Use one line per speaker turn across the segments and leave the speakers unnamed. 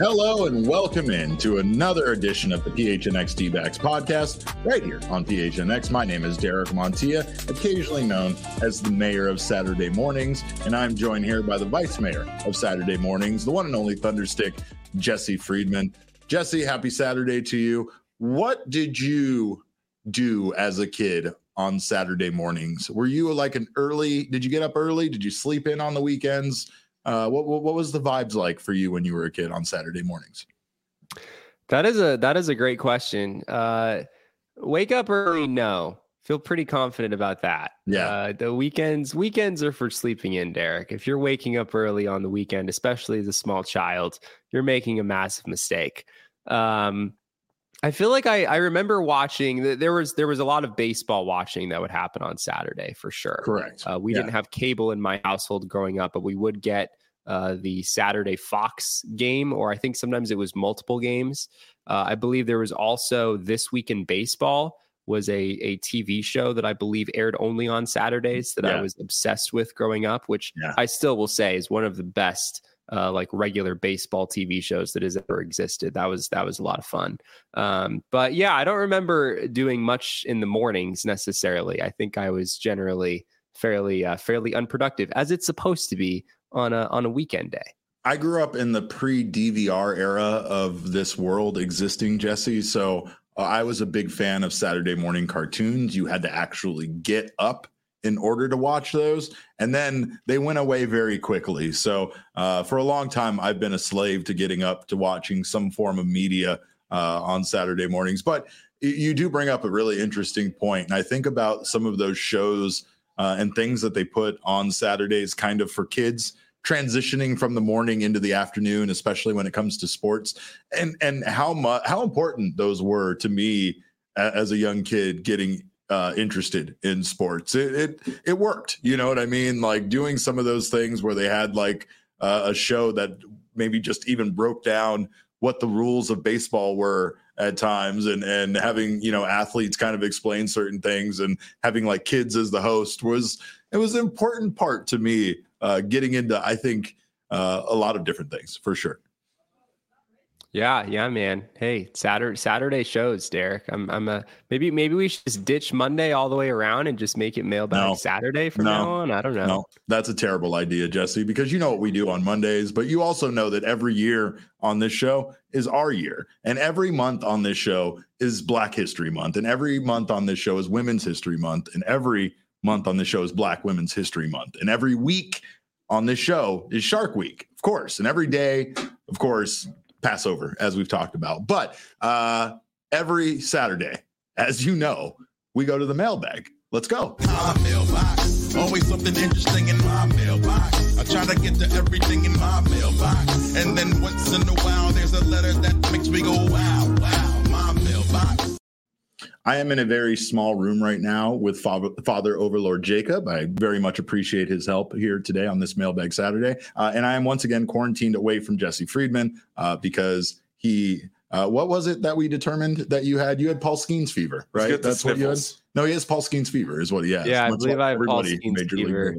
Hello and welcome in to another edition of the PHNX D-Backs podcast right here on PHNX. My name is Derek Montilla, occasionally known as the mayor of Saturday mornings, and I'm joined here by the vice mayor of Saturday mornings, the one and only Thunderstick, Jesse Friedman. Jesse, happy Saturday to you. What did you do as a kid on Saturday mornings? Were you did you get up early? Did you sleep in on the weekends? What was the vibes like for you when you were a kid on Saturday mornings?
That is a great question. Wake up early? No. Feel pretty confident about that.
Yeah.
The weekends are for sleeping in, Derek. If you're waking up early on the weekend, especially as a small child, you're making a massive mistake. I feel like I remember watching. There was a lot of baseball watching that would happen on Saturday for sure.
Correct.
We didn't have cable in my household growing up, but we would get the Saturday Fox game, or I think sometimes it was multiple games. I believe there was also This Week in Baseball was a TV show that I believe aired only on Saturdays that I was obsessed with growing up, which I still will say is one of the best regular baseball TV shows that has ever existed. That was a lot of fun. But yeah, I don't remember doing much in the mornings necessarily. I think I was generally fairly unproductive, as it's supposed to be on a weekend day.
I grew up in the pre-DVR era of this world existing, Jesse. So I was a big fan of Saturday morning cartoons. You had to actually get up in order to watch those. And then they went away very quickly. So for a long time, I've been a slave to getting up to watching some form of media on Saturday mornings. But you do bring up a really interesting point. And I think about some of those shows and things that they put on Saturdays kind of for kids transitioning from the morning into the afternoon, especially when it comes to sports, and how important those were to me as a young kid getting interested in sports. It worked, you know what I mean? Like doing some of those things where they had like a show that maybe just even broke down what the rules of baseball were at times, and having, you know, athletes kind of explain certain things, and having like kids as the host was an important part to me getting into, I think, a lot of different things for sure.
Yeah, man. Hey, Saturday shows, Derek. Maybe we should just ditch Monday all the way around and just make it mailbag Saturday from now on. I don't know.
No, that's a terrible idea, Jesse, because you know what we do on Mondays, but you also know that every year on this show is our year, and every month on this show is Black History Month, and every month on this show is Women's History Month, and every month on this show is Black Women's History Month, and every week on this show is Shark Week, of course, and every day, of course, Passover, as we've talked about. But every Saturday, as you know, we go to the mailbag. Let's go.
My mailbox, always something interesting in my mailbox. I try to get to everything in my mailbox, and then once in a while, there's a letter that makes me go, wow, my mailbox.
I am in a very small room right now with Father Overlord Jacob. I very much appreciate his help here today on this Mailbag Saturday. And I am once again quarantined away from Jesse Friedman because he, what was it that we determined that you had? You had Paul Skeens fever, right? That's what you had? No, he has Paul Skeens fever is what he has.
Yeah, I believe I have Paul Skeens fever.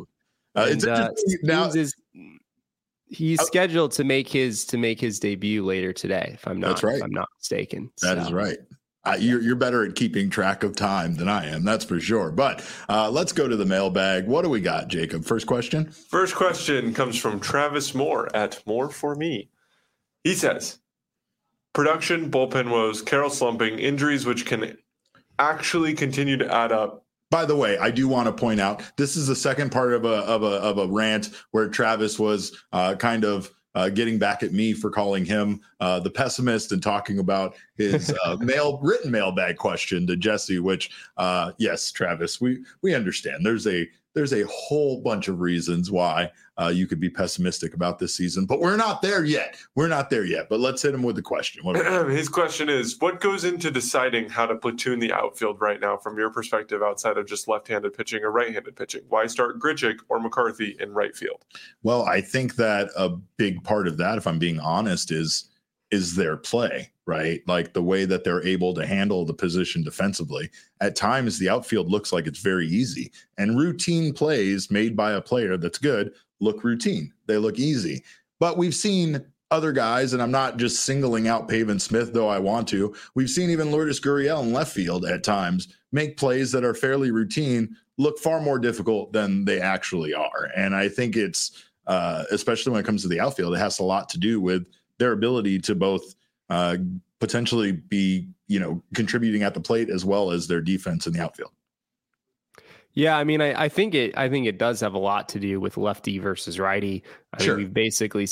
He's scheduled to make his debut later today, if I'm not mistaken.
That is right. You're better at keeping track of time than I am, that's for sure. But let's go to the mailbag. What do we got, Jacob? First question?
First question comes from Travis Moore at More For Me. He says, production, bullpen woes, Carroll slumping, injuries which can actually continue to add up.
By the way, I do want to point out, this is the second part of a rant where Travis was kind of getting back at me for calling him the pessimist and talking about his written mailbag question to Jesse, which, yes, Travis, we understand. There's a whole bunch of reasons why you could be pessimistic about this season, but we're not there yet. But let's hit him with the question.
His question is, what goes into deciding how to platoon the outfield right now from your perspective outside of just left-handed pitching or right-handed pitching? Why start Grichuk or McCarthy in right field?
Well, I think that a big part of that, if I'm being honest, is their play, right? Like the way that they're able to handle the position defensively. At times, the outfield looks like it's very easy, and routine plays made by a player that's good look routine. They look easy. But we've seen other guys, and I'm not just singling out Pavin Smith, though I want to. We've seen even Lourdes Gurriel in left field at times make plays that are fairly routine look far more difficult than they actually are. And I think it's, especially when it comes to the outfield, it has a lot to do with their ability to both potentially be, contributing at the plate as well as their defense in the outfield.
Yeah, I mean, I think it does have a lot to do with lefty versus righty. I mean, we've basically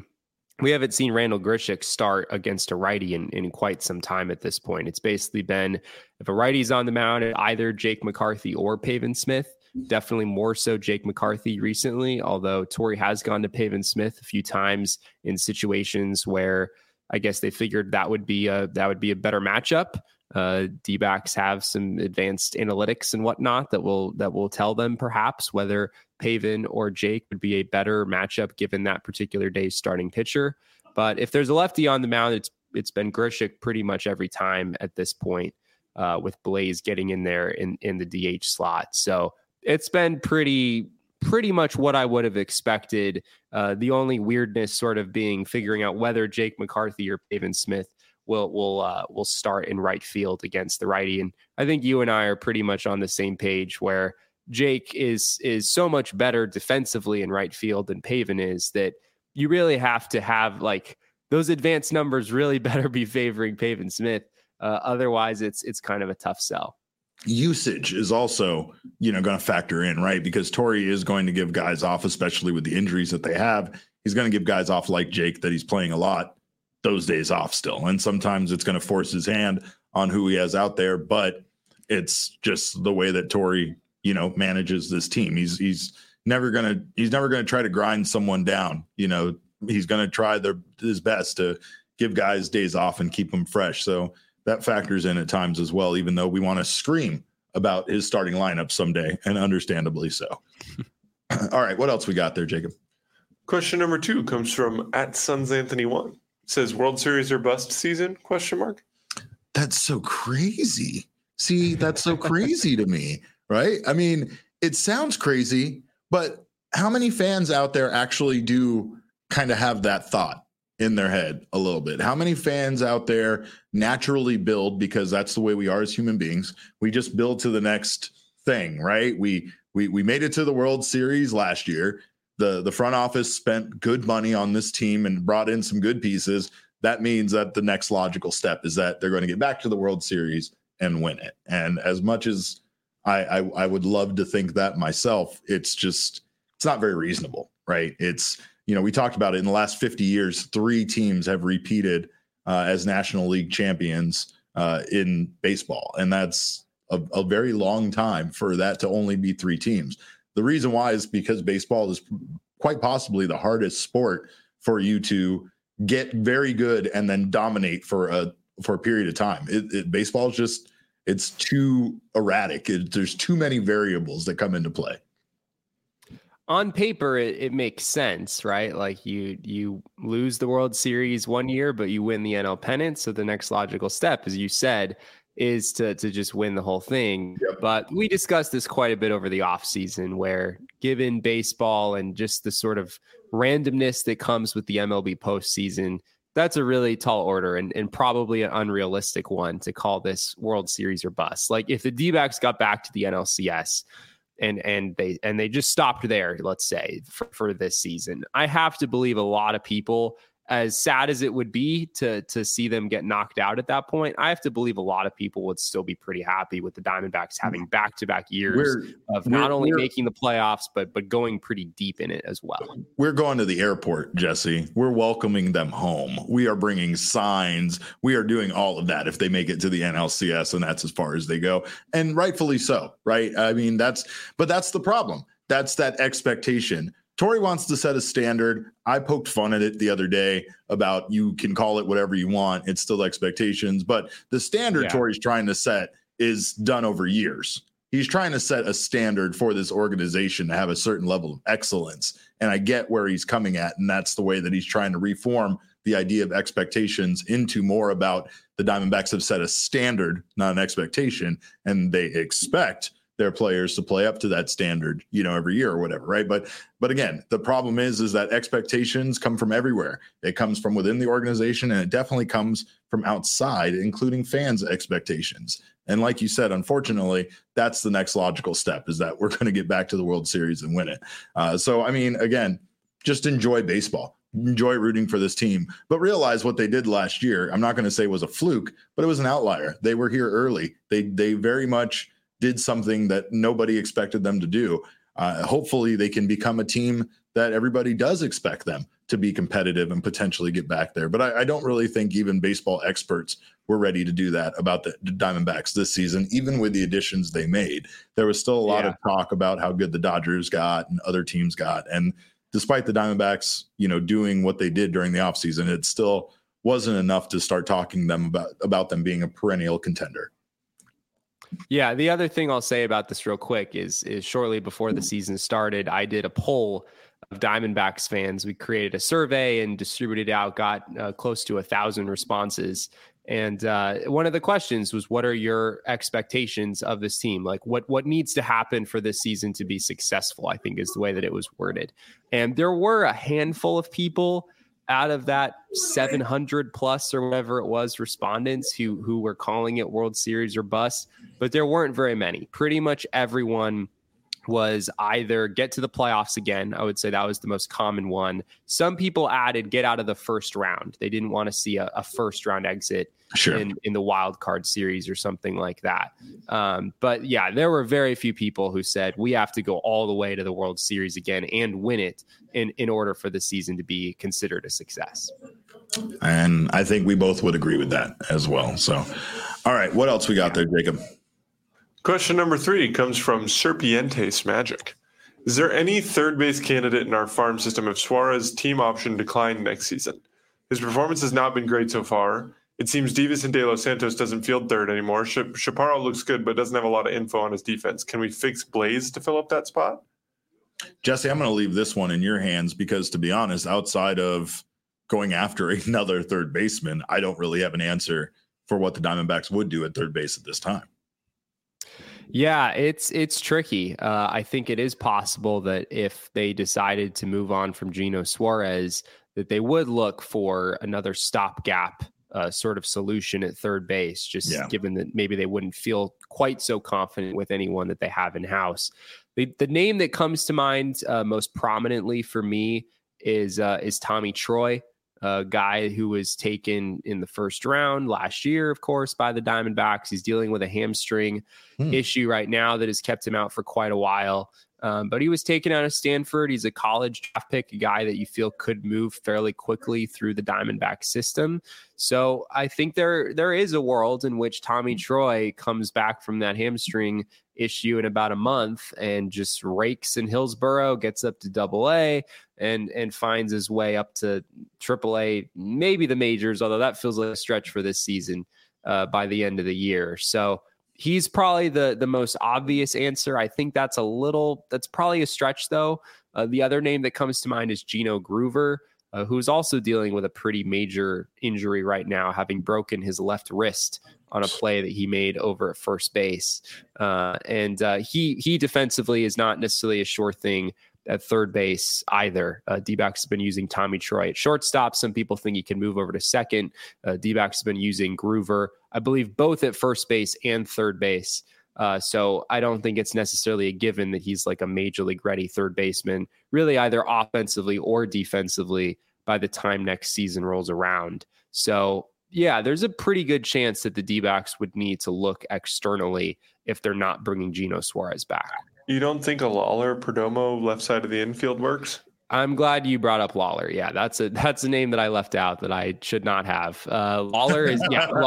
we haven't seen Randall Grichuk start against a righty in quite some time at this point. It's basically been, if a righty's on the mound, either Jake McCarthy or Pavin Smith. Definitely more so Jake McCarthy recently, although Torey has gone to Pavin Smith a few times in situations where I guess they figured that would be a better matchup. D-backs have some advanced analytics and whatnot that will tell them perhaps whether Pavin or Jake would be a better matchup given that particular day's starting pitcher. But if there's a lefty on the mound, it's been Grichuk pretty much every time at this point, with Blaze getting in there in the DH slot. So it's been pretty much what I would have expected. The only weirdness sort of being figuring out whether Jake McCarthy or Pavin Smith will start in right field against the righty. And I think you and I are pretty much on the same page where Jake is so much better defensively in right field than Pavin is, that you really have to have like those advanced numbers really better be favoring Pavin Smith. Otherwise it's kind of a tough sell.
Usage is also, going to factor in, right? Because Torey is going to give guys off, especially with the injuries that they have. He's going to give guys off like Jake that he's playing a lot those days off still. And sometimes it's going to force his hand on who he has out there, but it's just the way that Torey, manages this team. He's never going to try to grind someone down. He's going to try his best to give guys days off and keep them fresh. So that factors in at times as well, even though we want to scream about his starting lineup someday, and understandably so. All right. What else we got there, Jacob?
Question number 2 comes from @SonsAnthony1. Says World Series or bust season? ?
That's so crazy. See, that's so crazy to me, right? I mean, it sounds crazy, but how many fans out there actually do kind of have that thought in their head a little bit? How many fans out there naturally build, because that's the way we are as human beings? We just build to the next thing, right? We made it to the World Series last year. The front office spent good money on this team and brought in some good pieces. That means that the next logical step is that they're going to get back to the World Series and win it. And as much as I would love to think that myself, it's not very reasonable, right? It's, we talked about it in the last 50 years, 3 teams have repeated as National League champions in baseball. And that's a very long time for that to only be 3 teams. The reason why is because baseball is quite possibly the hardest sport for you to get very good and then dominate for a period of time. Baseball is just, it's too erratic. There's too many variables that come into play.
On paper, it makes sense, right? Like you lose the World Series one year, but you win the NL pennant. So the next logical step, as you said, is to just win the whole thing. Yep. But we discussed this quite a bit over the offseason, where given baseball and just the sort of randomness that comes with the MLB postseason, that's a really tall order and probably an unrealistic one to call this World Series or bust. Like if the D-backs got back to the NLCS and they just stopped there, let's say, for this season, I have to believe a lot of people, as sad as it would be to see them get knocked out at that point, I have to believe a lot of people would still be pretty happy with the Diamondbacks having back-to-back years of not only making the playoffs, but going pretty deep in it as well.
We're going to the airport, Jesse. We're welcoming them home. We are bringing signs. We are doing all of that if they make it to the NLCS, and that's as far as they go. And rightfully so, right? I mean, that's the problem. That's that expectation. Torey wants to set a standard. I poked fun at it the other day about you can call it whatever you want. It's still expectations. But the standard Torey's trying to set is done over years. He's trying to set a standard for this organization to have a certain level of excellence. And I get where he's coming at. And that's the way that he's trying to reform the idea of expectations into more about the Diamondbacks have set a standard, not an expectation. And they expect their players to play up to that standard, every year or whatever, right? But again, the problem is that expectations come from everywhere. It comes from within the organization, and it definitely comes from outside, including fans' expectations. And like you said, unfortunately, that's the next logical step, is that we're going to get back to the World Series and win it. So, I mean, again, just enjoy baseball. Enjoy rooting for this team, but realize what they did last year. I'm not going to say was a fluke, but it was an outlier. They were here early. They very much did something that nobody expected them to do. Hopefully they can become a team that everybody does expect them to be competitive and potentially get back there. But I don't really think even baseball experts were ready to do that about the Diamondbacks this season, even with the additions they made. There was still a lot of talk about how good the Dodgers got and other teams got. And despite the Diamondbacks, doing what they did during the offseason, it still wasn't enough to start talking them about them being a perennial contender.
Yeah, the other thing I'll say about this real quick is shortly before the season started, I did a poll of Diamondbacks fans. We created a survey and distributed it out, got close to 1,000 responses. And one of the questions was, what are your expectations of this team? Like what needs to happen for this season to be successful, I think is the way that it was worded. And there were a handful of people out of that 700 plus or whatever it was respondents who were calling it World Series or bust, but there weren't very many. Pretty much everyone was either get to the playoffs again. I would say that was the most common one. Some people added get out of the first round. They didn't want to see a first round exit in the wild card series or something like that. But yeah, there were very few people who said we have to go all the way to the World Series again and win it in order for the season to be considered a success.
And I think we both would agree with that as well. So, all right, what else we got there, Jacob?
Question number 3 comes from Serpientes Magic. Is there any third base candidate in our farm system if Suarez' team option declined next season? His performance has not been great so far. It seems Divas and De Los Santos doesn't field third anymore. Chaparro looks good, but doesn't have a lot of info on his defense. Can we fix Blaze to fill up that spot?
Jesse, I'm going to leave this one in your hands because, to be honest, outside of going after another third baseman, I don't really have an answer for what the Diamondbacks would do at third base at this time.
Yeah, it's tricky. I think it is possible that if they decided to move on from Gino Suarez, that they would look for another stopgap sort of solution at third base, just given that maybe they wouldn't feel quite so confident with anyone that they have in-house. The name that comes to mind most prominently for me is Tommy Troy, a guy who was taken in the first round last year, of course, by the Diamondbacks. He's dealing with a hamstring issue right now that has kept him out for quite a while. But he was taken out of Stanford. He's a college draft pick, a guy that you feel could move fairly quickly through the Diamondback system. So I think there is a world in which Tommy Troy comes back from that hamstring issue in about a month and just rakes in Hillsboro, gets up to AA, and finds his way up to AAA, maybe the majors, although that feels like a stretch for this season by the end of the year. So he's probably the most obvious answer. I think that's probably a stretch, though. The other name that comes to mind is Gino Groover, who's also dealing with a pretty major injury right now, having broken his left wrist on a play that he made over at first base. And he defensively is not necessarily a sure thing at third base either. D-backs have been using Tommy Troy at shortstop. Some people think he can move over to second. D-backs have been using Groover, I believe, both at first base and third base. So I don't think it's necessarily a given that he's like a major league ready third baseman, really either offensively or defensively by the time next season rolls around. So yeah, there's a pretty good chance that the D-backs would need to look externally if they're not bringing Gino Suarez back. You
don't think a Lawler Perdomo left side of the infield works?
I'm glad you brought up Lawler. Yeah, that's a name that I left out that I should not have. Lawler is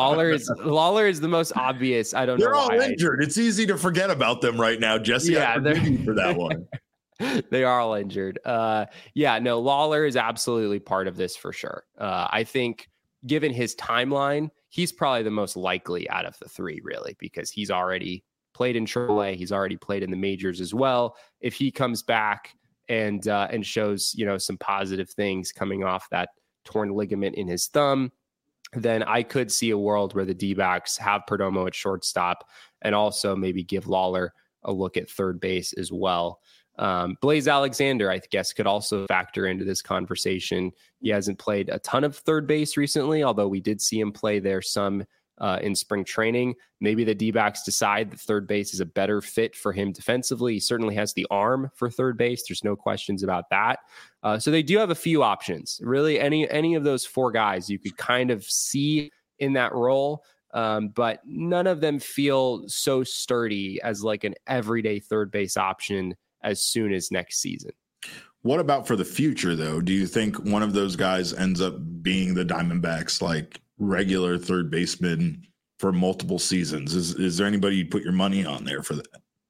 the most obvious. I don't know.
They're all injured. It's easy to forget about them right now, Jesse.
Yeah,
they're for that one.
They are all injured. Lawler is absolutely part of this for sure. I think given his timeline, he's probably the most likely out of the three, really, because he's already played in AAA. He's already played in the majors as well. If he comes back and shows, some positive things coming off that torn ligament in his thumb, then I could see a world where the D-backs have Perdomo at shortstop and also maybe give Lawler a look at third base as well. Blaze Alexander, I guess, could also factor into this conversation. He hasn't played a ton of third base recently, although we did see him play there some in spring training. Maybe the D-backs decide that third base is a better fit for him defensively. He certainly has the arm for third base. There's no questions about that. So they do have a few options. Really, any of those four guys you could kind of see in that role, but none of them feel so sturdy as like an everyday third base option as soon as next season.
What about for the future, though? Do you think one of those guys ends up being the Diamondbacks, like regular third baseman for multiple seasons? Is there anybody you'd put your money on there for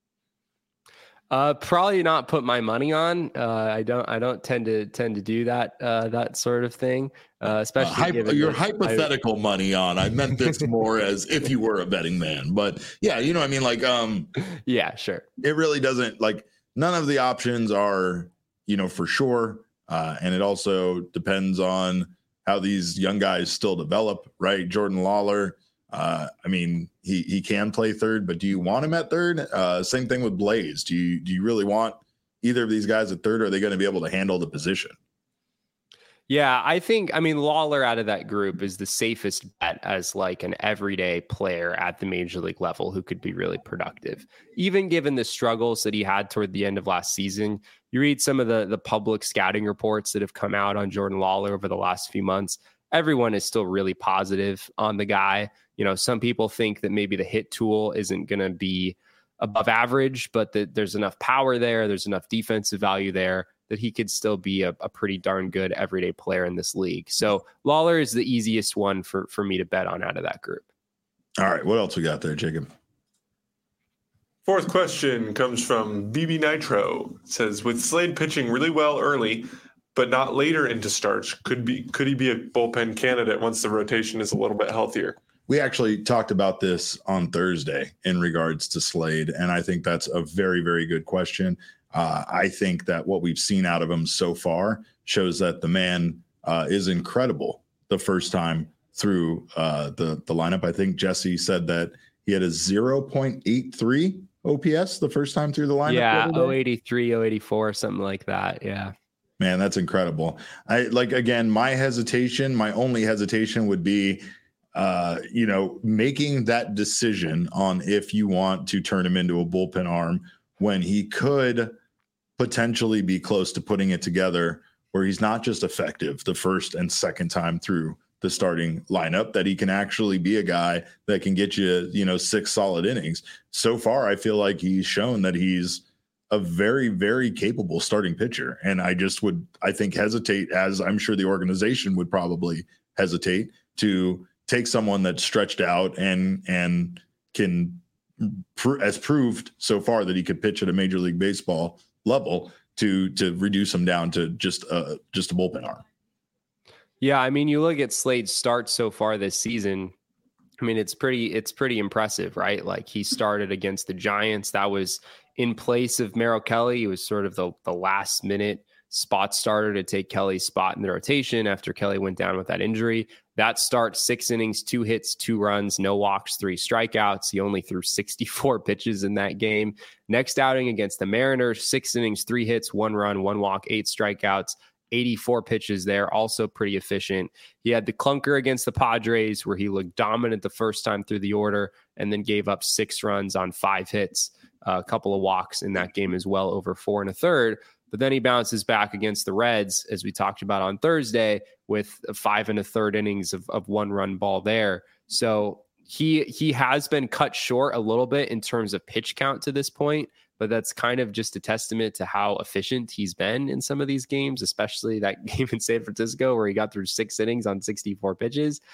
that?
Probably not put my money on. I don't tend to do that that sort of thing. Especially
your hypothetical money on. I meant this more as if you were a betting man, but yeah, you know what I mean. Like,
yeah, sure.
It really doesn't, like, none of the options are, for sure. And it also depends on how these young guys still develop, right? Jordan Lawler, he can play third, but do you want him at third? Same thing with Blaze. Do you really want either of these guys at third? Or are they going to be able to handle the position?
Yeah, I mean, Lawler out of that group is the safest bet as like an everyday player at the major league level who could be really productive. Even given the struggles that he had toward the end of last season, you read some of the public scouting reports that have come out on Jordan Lawler over the last few months. Everyone is still really positive on the guy. Some people think that maybe the hit tool isn't going to be above average, but that there's enough power there, there's enough defensive value there that he could still be a pretty darn good everyday player in this league. So Lawler is the easiest one for me to bet on out of that group.
All right. What else we got there, Jacob?
Fourth question comes from BB Nitro. It says, with Slade pitching really well early, but not later into starts, could he be a bullpen candidate once the rotation is a little bit healthier?
We actually talked about this on Thursday in regards to Slade, and I think that's a very, very good question. I think that what we've seen out of him so far shows that the man is incredible the first time through the lineup. I think Jesse said that he had a 0.83 OPS the first time through the lineup.
Yeah, 083, 084, something like that. Yeah.
Man, that's incredible. My only hesitation would be, making that decision on if you want to turn him into a bullpen arm when he could potentially be close to putting it together where he's not just effective the first and second time through the starting lineup, that he can actually be a guy that can get you, 6 solid innings. So far, I feel like he's shown that he's a very, very capable starting pitcher. And I think hesitate, as I'm sure the organization would probably hesitate, to take someone that's stretched out and can has proved so far that he could pitch at a Major League Baseball level to reduce him down to just a bullpen arm.
Yeah, I mean, you look at Slade's starts so far this season. I mean, it's pretty impressive, right? Like, he started against the Giants. That was in place of Merrill Kelly. He was sort of the last minute spot starter to take Kelly's spot in the rotation after Kelly went down with that injury. That start, 6 innings, 2 hits, 2 runs, no walks, 3 strikeouts. He only threw 64 pitches in that game. Next outing against the Mariners, 6 innings, 3 hits, 1 run, 1 walk, 8 strikeouts, 84 pitches there, also pretty efficient. He had the clunker against the Padres where he looked dominant the first time through the order and then gave up 6 runs on 5 hits, a couple of walks in that game as well, over 4 1/3. But then he bounces back against the Reds, as we talked about on Thursday, with 5 1/3 innings of 1-run ball there. So he has been cut short a little bit in terms of pitch count to this point, but that's kind of just a testament to how efficient he's been in some of these games, especially that game in San Francisco where he got through 6 innings on 64 pitches.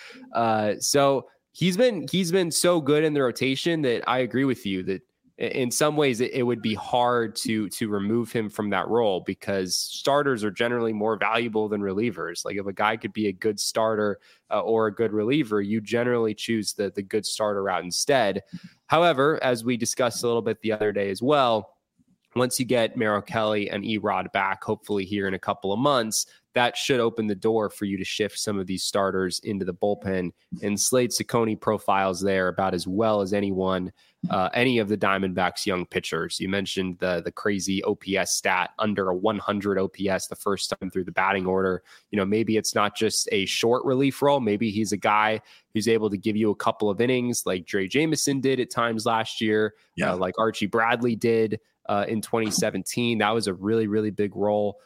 So he's been so good in the rotation that I agree with you that in some ways it would be hard to remove him from that role, because starters are generally more valuable than relievers. Like, if a guy could be a good starter or a good reliever, you generally choose the good starter route instead. However, as we discussed a little bit the other day as well, once you get Merrill Kelly and Erod back, hopefully here in a couple of months, that should open the door for you to shift some of these starters into the bullpen. And Slade Cecconi profiles there about as well as anyone, any of the Diamondbacks' young pitchers. You mentioned the crazy OPS stat, under a 100 OPS the first time through the batting order. Maybe it's not just a short relief role. Maybe he's a guy who's able to give you a couple of innings like Dre Jameson did at times last year, like Archie Bradley did in 2017. That was a really, really big role.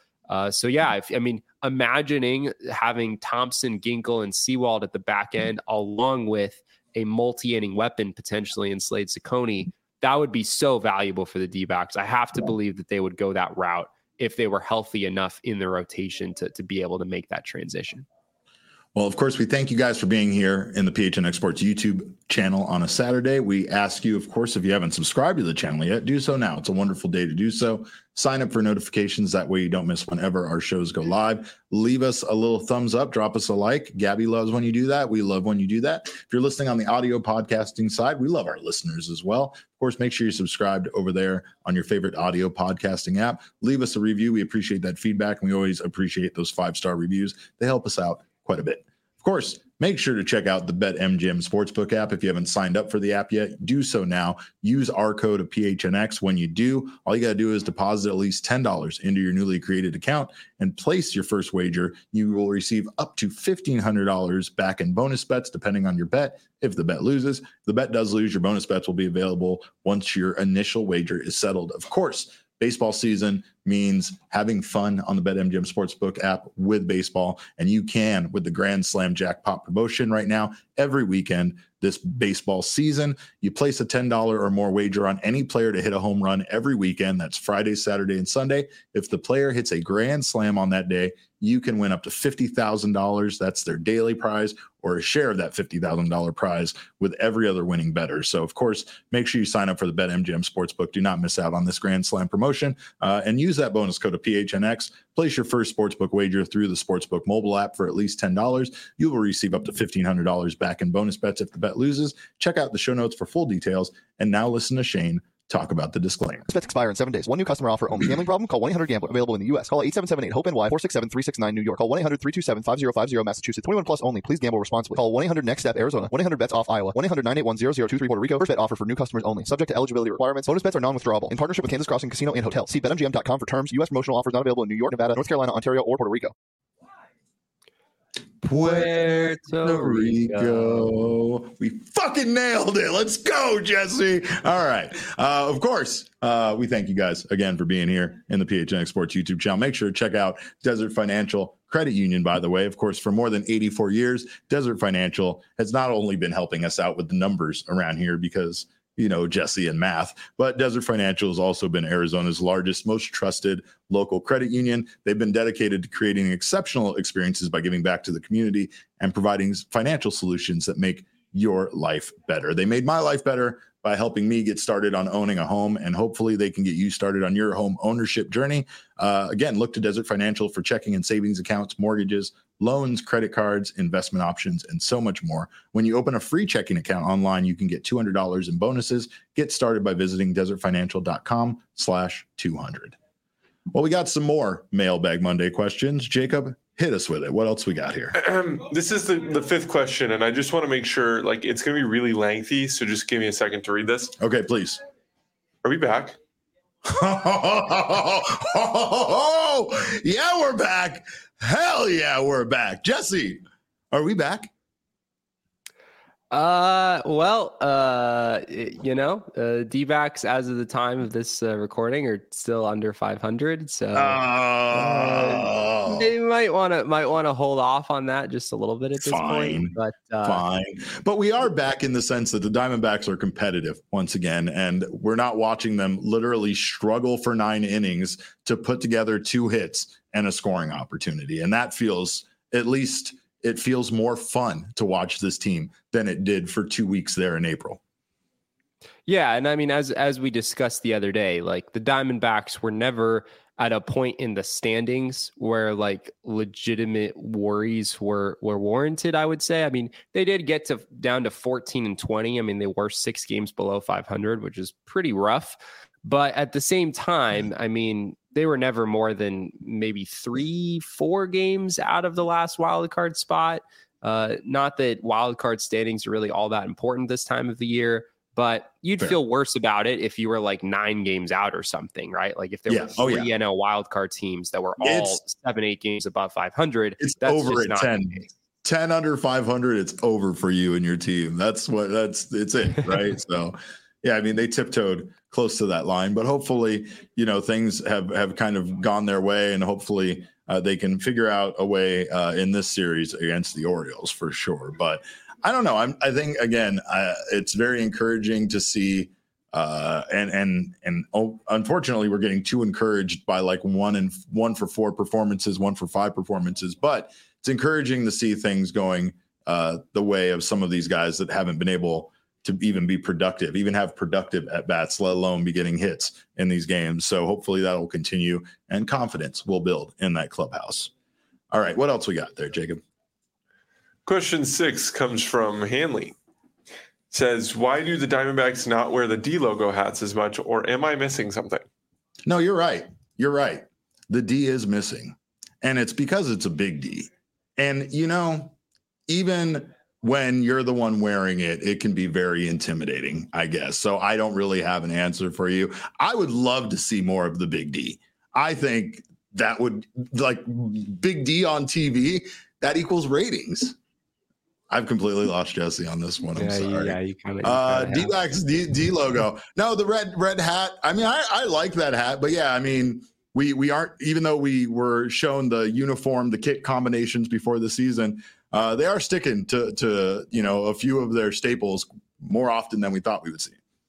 Imagining having Thompson, Ginkel, and Sewald at the back end, along with a multi-inning weapon potentially in Slade Cecconi, that would be so valuable for the D-backs. I have to believe that they would go that route if they were healthy enough in the rotation to be able to make that transition.
Well, of course, we thank you guys for being here in the PHNX Sports YouTube channel on a Saturday. We ask you, of course, if you haven't subscribed to the channel yet, do so now. It's a wonderful day to do so. Sign up for notifications. That way you don't miss whenever our shows go live. Leave us a little thumbs up. Drop us a like. Gabby loves when you do that. We love when you do that. If you're listening on the audio podcasting side, we love our listeners as well. Of course, make sure you're subscribed over there on your favorite audio podcasting app. Leave us a review. We appreciate that feedback, and we always appreciate those 5-star reviews. They help us out quite a bit. Of course, make sure to check out the BetMGM Sportsbook app. If you haven't signed up for the app yet, do so now. Use our code of PHNX. When you do, all you got to do is deposit at least $10 into your newly created account and place your first wager. You will receive up to $1,500 back in bonus bets, depending on your bet. If the bet loses, if the bet does lose, your bonus bets will be available once your initial wager is settled. Of course, baseball season means having fun on the BetMGM Sportsbook app with baseball, and you can with the Grand Slam Jackpot promotion right now. Every weekend this baseball season, you place a $10 or more wager on any player to hit a home run every weekend. That's Friday, Saturday, and Sunday. If the player hits a grand slam on that day, you can win up to $50,000. That's their daily prize, or a share of that $50,000 prize with every other winning bettor. So, of course, make sure you sign up for the BetMGM Sportsbook. Do not miss out on this Grand Slam promotion, and use that bonus code of PHNX. Place your first sportsbook wager through the Sportsbook mobile app for at least $10. You will receive up to $1,500 back in bonus bets if the bet loses. Check out the show notes for full details. And now listen to Shane talk about the disclaimer.
Bets expire in 7 days. One new customer offer only. Gambling problem? Call 1-800-GAMBLER. Available in the U.S. Call 877-8-HOPE-NY 467-369 New York. Call 1-800-327-5050 Massachusetts. 21 plus only. Please gamble responsibly. Call 1-800-NEXT-STEP Arizona. 1-800-BETS-OFF Iowa. 1-800-981-0023 Puerto Rico. First bet offer for new customers only. Subject to eligibility requirements. Bonus bets are non-withdrawable. In partnership with Kansas Crossing Casino and Hotel. See BetMGM.com for terms. U.S. promotional offers not available in New York, Nevada, North Carolina, Ontario, or Puerto Rico.
Puerto Rico. We fucking nailed it. Let's go, Jesse. All right. Of course, we thank you guys again for being here in the PHNX Sports YouTube channel. Make sure to check out Desert Financial Credit Union, by the way. Of course, for more than 84 years, Desert Financial has not only been helping us out with the numbers around here because, Jesse and math, but Desert Financial has also been Arizona's largest, most trusted local credit union. They've been dedicated to creating exceptional experiences by giving back to the community and providing financial solutions that make your life better. They made my life better by helping me get started on owning a home, and hopefully they can get you started on your home ownership journey. Again, look to Desert Financial for checking and savings accounts, mortgages, loans, credit cards, investment options, and so much more. When you open a free checking account online, you can get $200 in bonuses. Get started by visiting desertfinancial.com/200. Well, we got some more Mailbag Monday questions. Jacob, hit us with it. What else we got here?
This is the fifth question, and I just want to make sure, it's going to be really lengthy, so just give me a second to read this.
Okay, please.
Are we back?
Yeah, we're back. Hell yeah, we're back. Jesse, are we back?
D-backs as of the time of this recording are still under 500, so they might want to hold off on that just a little bit at this point. But
fine. But we are back in the sense that the Diamondbacks are competitive once again, and we're not watching them literally struggle for 9 innings to put together 2 hits and a scoring opportunity, and that feels, at least it feels more fun to watch this team than it did for 2 weeks there in April.
Yeah. And I mean, as we discussed the other day, the Diamondbacks were never at a point in the standings where legitimate worries were warranted, I would say. I mean, they did get down to 14-20. I mean, they were 6 games below 500, which is pretty rough. But at the same time, I mean, they were never more than maybe 3-4 games out of the last wild card spot. Not that wild card standings are really all that important this time of the year, but you'd feel worse about it if you were like 9 games out or something, right? Like if there were 3 NL wild card teams that were all 7-8 games above 500,
it's over at 10 under 500. It's over for you and your team. It's it, right? So, yeah, I mean, they tiptoed close to that line, but hopefully, things have kind of gone their way, and hopefully they can figure out a way in this series against the Orioles for sure. But I don't know. I think again, it's very encouraging to see, and unfortunately, we're getting too encouraged by like 1 for 4 performances, 1 for 5 performances. But it's encouraging to see things going the way of some of these guys that haven't been able to even be productive, even have productive at bats, let alone be getting hits in these games. So hopefully that will continue, and confidence will build in that clubhouse. All right, what else we got there, Jacob?
Question 6 comes from Hanley. Says, why do the Diamondbacks not wear the D logo hats as much, or am I missing something?
No, you're right. You're right. The D is missing, and it's because it's a big D. And, even when you're the one wearing it, it can be very intimidating, I guess. So I don't really have an answer for you. I would love to see more of the big D. I think that would, like, big D on TV, that equals ratings. I've completely lost Jesse on this one. I'm sorry.
Yeah, you kind of
D-backs, D logo. No, the red hat. I mean, I like that hat, but yeah, I mean, we aren't, even though we were shown the uniform, the kit combinations before the season, they are sticking to a few of their staples more often than we thought we would see.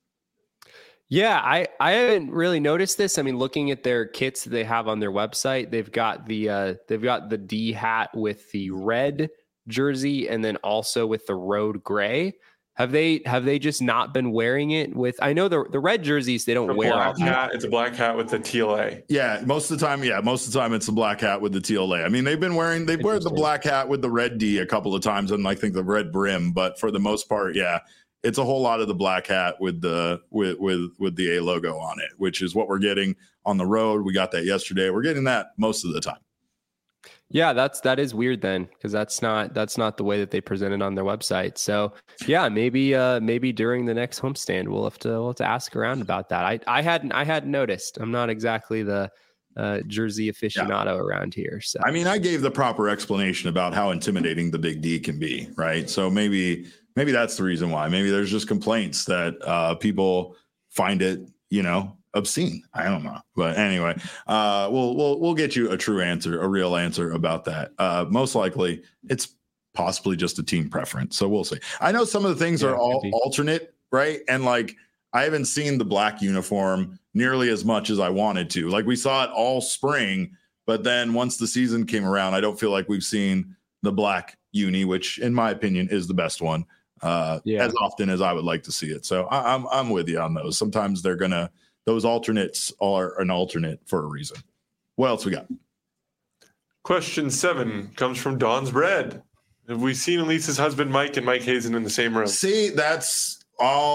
Yeah, I haven't really noticed this. I mean, looking at their kits that they have on their website, they've got the D hat with the red jersey and then also with the road gray. Have they just not been wearing it with? I know the red jerseys they don't wear.
It's a black hat with the TLA.
Yeah, most of the time it's the black hat with the TLA. I mean, they wear the black hat with the red D a couple of times, and I think the red brim. But for the most part, yeah, it's a whole lot of the black hat with the A logo on it, which is what we're getting on the road. We got that yesterday. We're getting that most of the time.
Yeah, that is weird then, because that's not the way that they present it on their website. So yeah, maybe during the next homestand we'll have to ask around about that. I hadn't noticed. I'm not exactly the jersey aficionado around here. So
I mean, I gave the proper explanation about how intimidating the big D can be, right? So maybe that's the reason why. Maybe there's just complaints that people find it, obscene. I don't know, but anyway, we'll get you a real answer about that. Most likely, it's possibly just a team preference. So we'll see. I know some of the things are all alternate, right? And like I haven't seen the black uniform nearly as much as I wanted to. Like we saw it all spring, but then once the season came around, I don't feel like we've seen the black uni, which in my opinion is the best one, as often as I would like to see it. So I'm with you on those. Sometimes those alternates are an alternate for a reason. What else we got?
Question 7 comes from Don's Bread. Have we seen Elise's husband, Mike, and Mike Hazen in the same room?
See, that's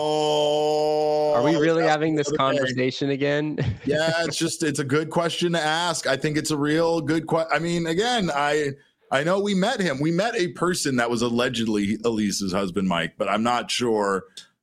all.
Are we really having this conversation again?
Yeah, it's a good question to ask. I think it's a real good question. I mean, again, I know we met him. We met a person that was allegedly Elise's husband, Mike, but I'm not sure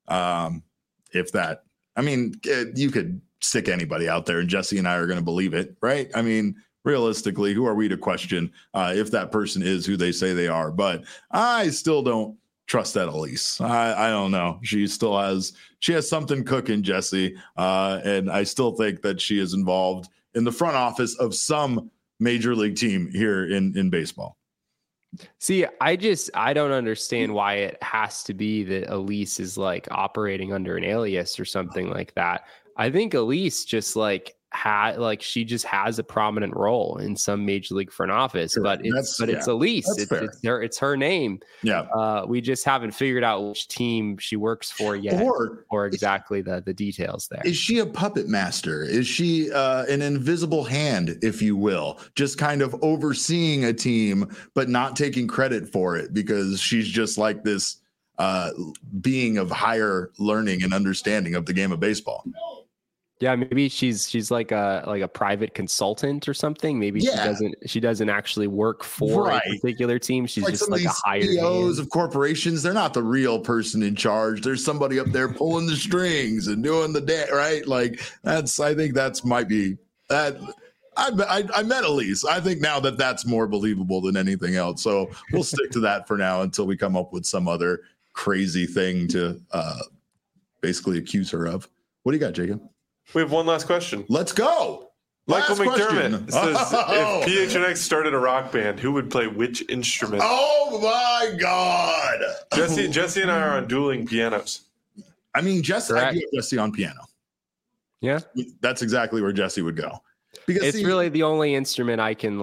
if that. I mean, you could stick anybody out there and Jesse and I are going to believe it, right? I mean, realistically, who are we to question if that person is who they say they are? But I still don't trust that Elise. I don't know. She has something cooking, Jesse. And I still think that she is involved in the front office of some major league team here in baseball.
See, I don't understand why it has to be that Elise is like operating under an alias or something like that. I think Elise just she just has a prominent role in some major league front office, sure. but it's Elise. It's her name.
Yeah.
We just haven't figured out which team she works for yet, or exactly the details there.
Is she a puppet master? Is she an invisible hand, if you will, just kind of overseeing a team, but not taking credit for it because she's just like this being of higher learning and understanding of the game of baseball?
Yeah, maybe she's like a private consultant or something. Maybe she doesn't actually work for a particular team. She's just like a hired
CEOs of corporations. They're not the real person in charge. There's somebody up there pulling the strings and doing the day, right? Like I think that's might be that. I met Elise. I think now that's more believable than anything else. So we'll stick to that for now until we come up with some other crazy thing to basically accuse her of. What do you got, Jacob?
We have one last question.
Let's go.
Michael McDermott says, if PHNX started a rock band, who would play which instrument?
Oh my God.
Jesse and I are on dueling pianos.
I mean, I do have Jesse on piano.
Yeah.
That's exactly where Jesse would go. Because
it's really the only instrument I can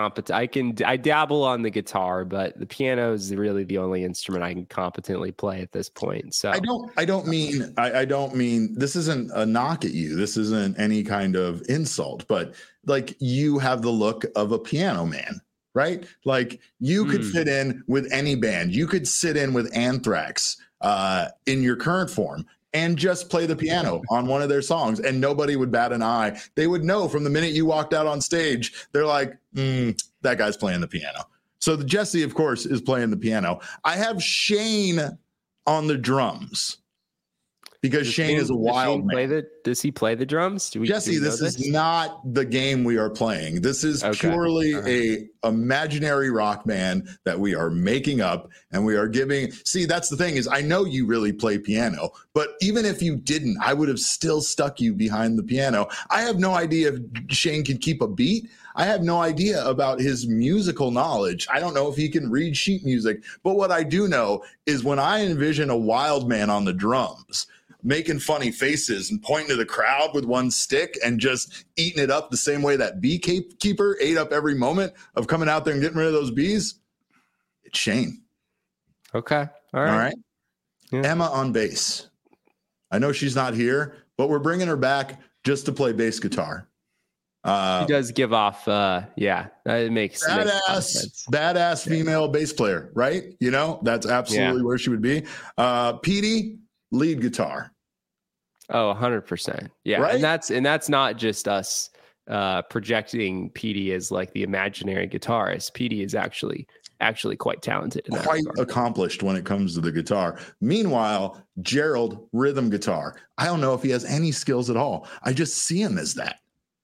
I dabble on the guitar, but the piano is really the only instrument I can competently play at this point. So
I don't mean this isn't a knock at you. This isn't any kind of insult, but like you have the look of a piano man, right? Like you could fit in with any band. You could sit in with Anthrax in your current form and just play the piano on one of their songs, and nobody would bat an eye. They would know from the minute you walked out on stage. They're like, that guy's playing the piano. So the Jesse, of course, is playing the piano. I have Shane on the drums because Shane is a wild man.
Does he play the drums?
Jesse, this is not the game we are playing. This is purely a imaginary rock band that we are making up, and we are giving. See, that's the thing is I know you really play piano, but even if you didn't, I would have still stuck you behind the piano. I have no idea if Shane can keep a beat. I have no idea about his musical knowledge. I don't know if he can read sheet music, but what I do know is when I envision a wild man on the drums, making funny faces and pointing to the crowd with one stick and just eating it up the same way that beekeeper ate up every moment of coming out there and getting rid of those bees. It's Shane.
Okay. All right.
Yeah. Emma on bass. I know she's not here, but we're bringing her back just to play bass guitar.
She does give off, it makes
badass female bass player, right? You know, that's absolutely where she would be. Petey, lead guitar.
Oh, 100%. Yeah. Right? And that's not just us projecting Petey as like the imaginary guitarist. Petey is actually quite talented in that
quite
regard.
Accomplished when it comes to the guitar. Meanwhile, Gerald, rhythm guitar. I don't know if he has any skills at all. I just see him as that.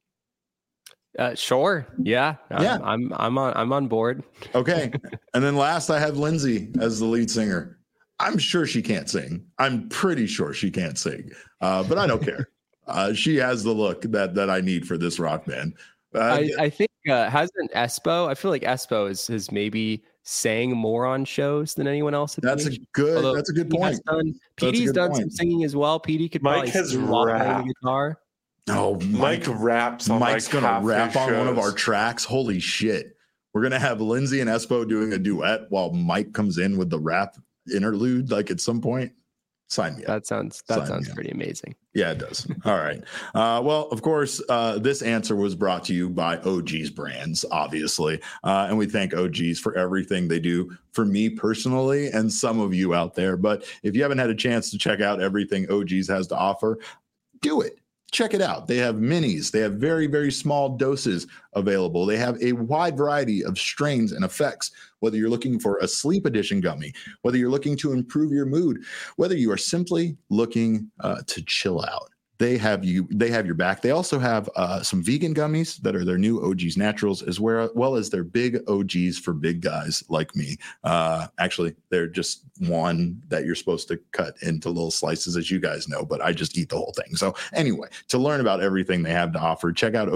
Sure. Yeah. I'm on board.
Okay. And then last I have Lindsay as the lead singer. I'm sure she can't sing. I'm pretty sure she can't sing. But I don't care. She has the look that I need for this rock band.
I think hasn't Espo? I feel like Espo has maybe sang more on shows than anyone else.
That's a good point.
Petey's done some singing as well. Petey could probably sing while playing the guitar.
No,
Mike raps on
Mike's gonna rap on one of our tracks. Holy shit. We're gonna have Lindsay and Espo doing a duet while Mike comes in with the rap interlude, like at some point. Sign me up.
That sounds pretty amazing.
Yeah, it does. All right. Well, of course, this answer was brought to you by OG's Brands, obviously. And we thank OG's for everything they do for me personally and some of you out there. But if you haven't had a chance to check out everything OG's has to offer, do it. Check it out. They have minis. They have very, very small doses available. They have a wide variety of strains and effects, whether you're looking for a sleep edition gummy, whether you're looking to improve your mood, whether you are simply looking to chill out. They have your back. They also have some vegan gummies that are their new OG's Naturals, as well as their big OG's for big guys like me. Actually, they're just one that you're supposed to cut into little slices, as you guys know, but I just eat the whole thing. So anyway, to learn about everything they have to offer, check out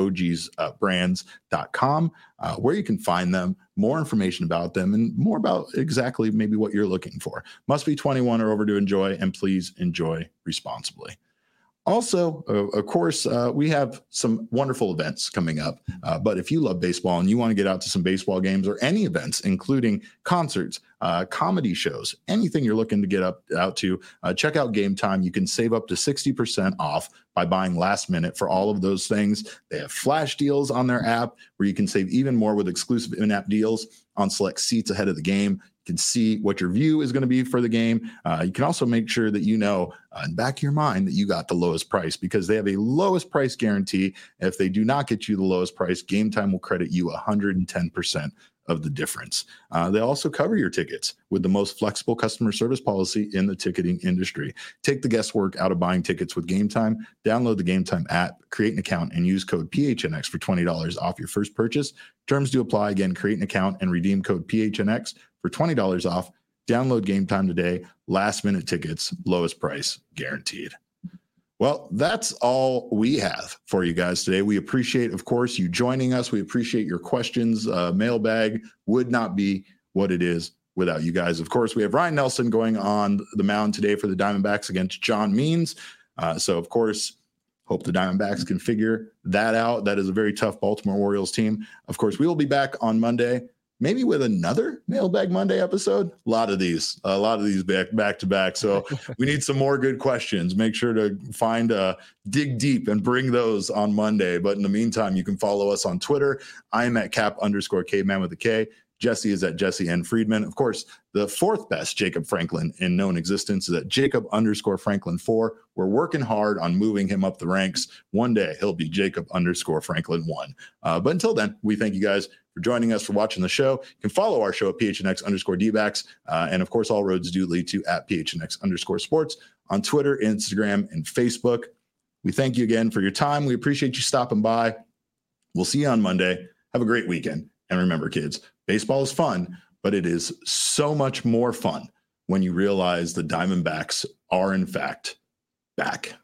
ogsbrands.com, where you can find them, more information about them, and more about exactly maybe what you're looking for. Must be 21 or over to enjoy, and please enjoy responsibly. Also, of course, we have some wonderful events coming up. But if you love baseball and you want to get out to some baseball games or any events, including concerts, comedy shows, anything you're looking to get out to, check out Game Time. You can save up to 60% off by buying last minute for all of those things. They have flash deals on their app where you can save even more with exclusive in-app deals on select seats ahead of the game. You can see what your view is going to be for the game. You can also make sure that you know in the back of your mind that you got the lowest price, because they have a lowest price guarantee. If they do not get you the lowest price, Game Time will credit you 110% of the difference. They also cover your tickets with the most flexible customer service policy in the ticketing industry. Take the guesswork out of buying tickets with Game Time. Download the Game Time app, create an account, and use code PHNX for $20 off your first purchase. Terms do apply. Again, create an account and redeem code PHNX for $20 off. Download Game Time today. Last minute tickets, lowest price guaranteed. Well, that's all we have for you guys today. We appreciate, of course, you joining us. We appreciate your questions. Mailbag would not be what it is without you guys. Of course, we have Ryan Nelson going on the mound today for the Diamondbacks against John Means. So, of course, hope the Diamondbacks can figure that out. That is a very tough Baltimore Orioles team. Of course, we will be back on Monday, maybe with another Mailbag Monday episode. A lot of these back to back. So we need some more good questions. Make sure to dig deep and bring those on Monday. But in the meantime, you can follow us on Twitter. I am at Cap_Caveman with a K. Jesse is at Jesse N. Friedman. Of course, the fourth best Jacob Franklin in known existence is at Jacob_Franklin4. We're working hard on moving him up the ranks. One day he'll be Jacob_Franklin1. But until then, we thank you guys for joining us, for watching the show. You can follow our show at PHNX_DBacks. And of course, all roads do lead to at PHNX_sports on Twitter, Instagram, and Facebook. We thank you again for your time. We appreciate you stopping by. We'll see you on Monday. Have a great weekend. And remember, kids, baseball is fun, but it is so much more fun when you realize the Diamondbacks are, in fact, back.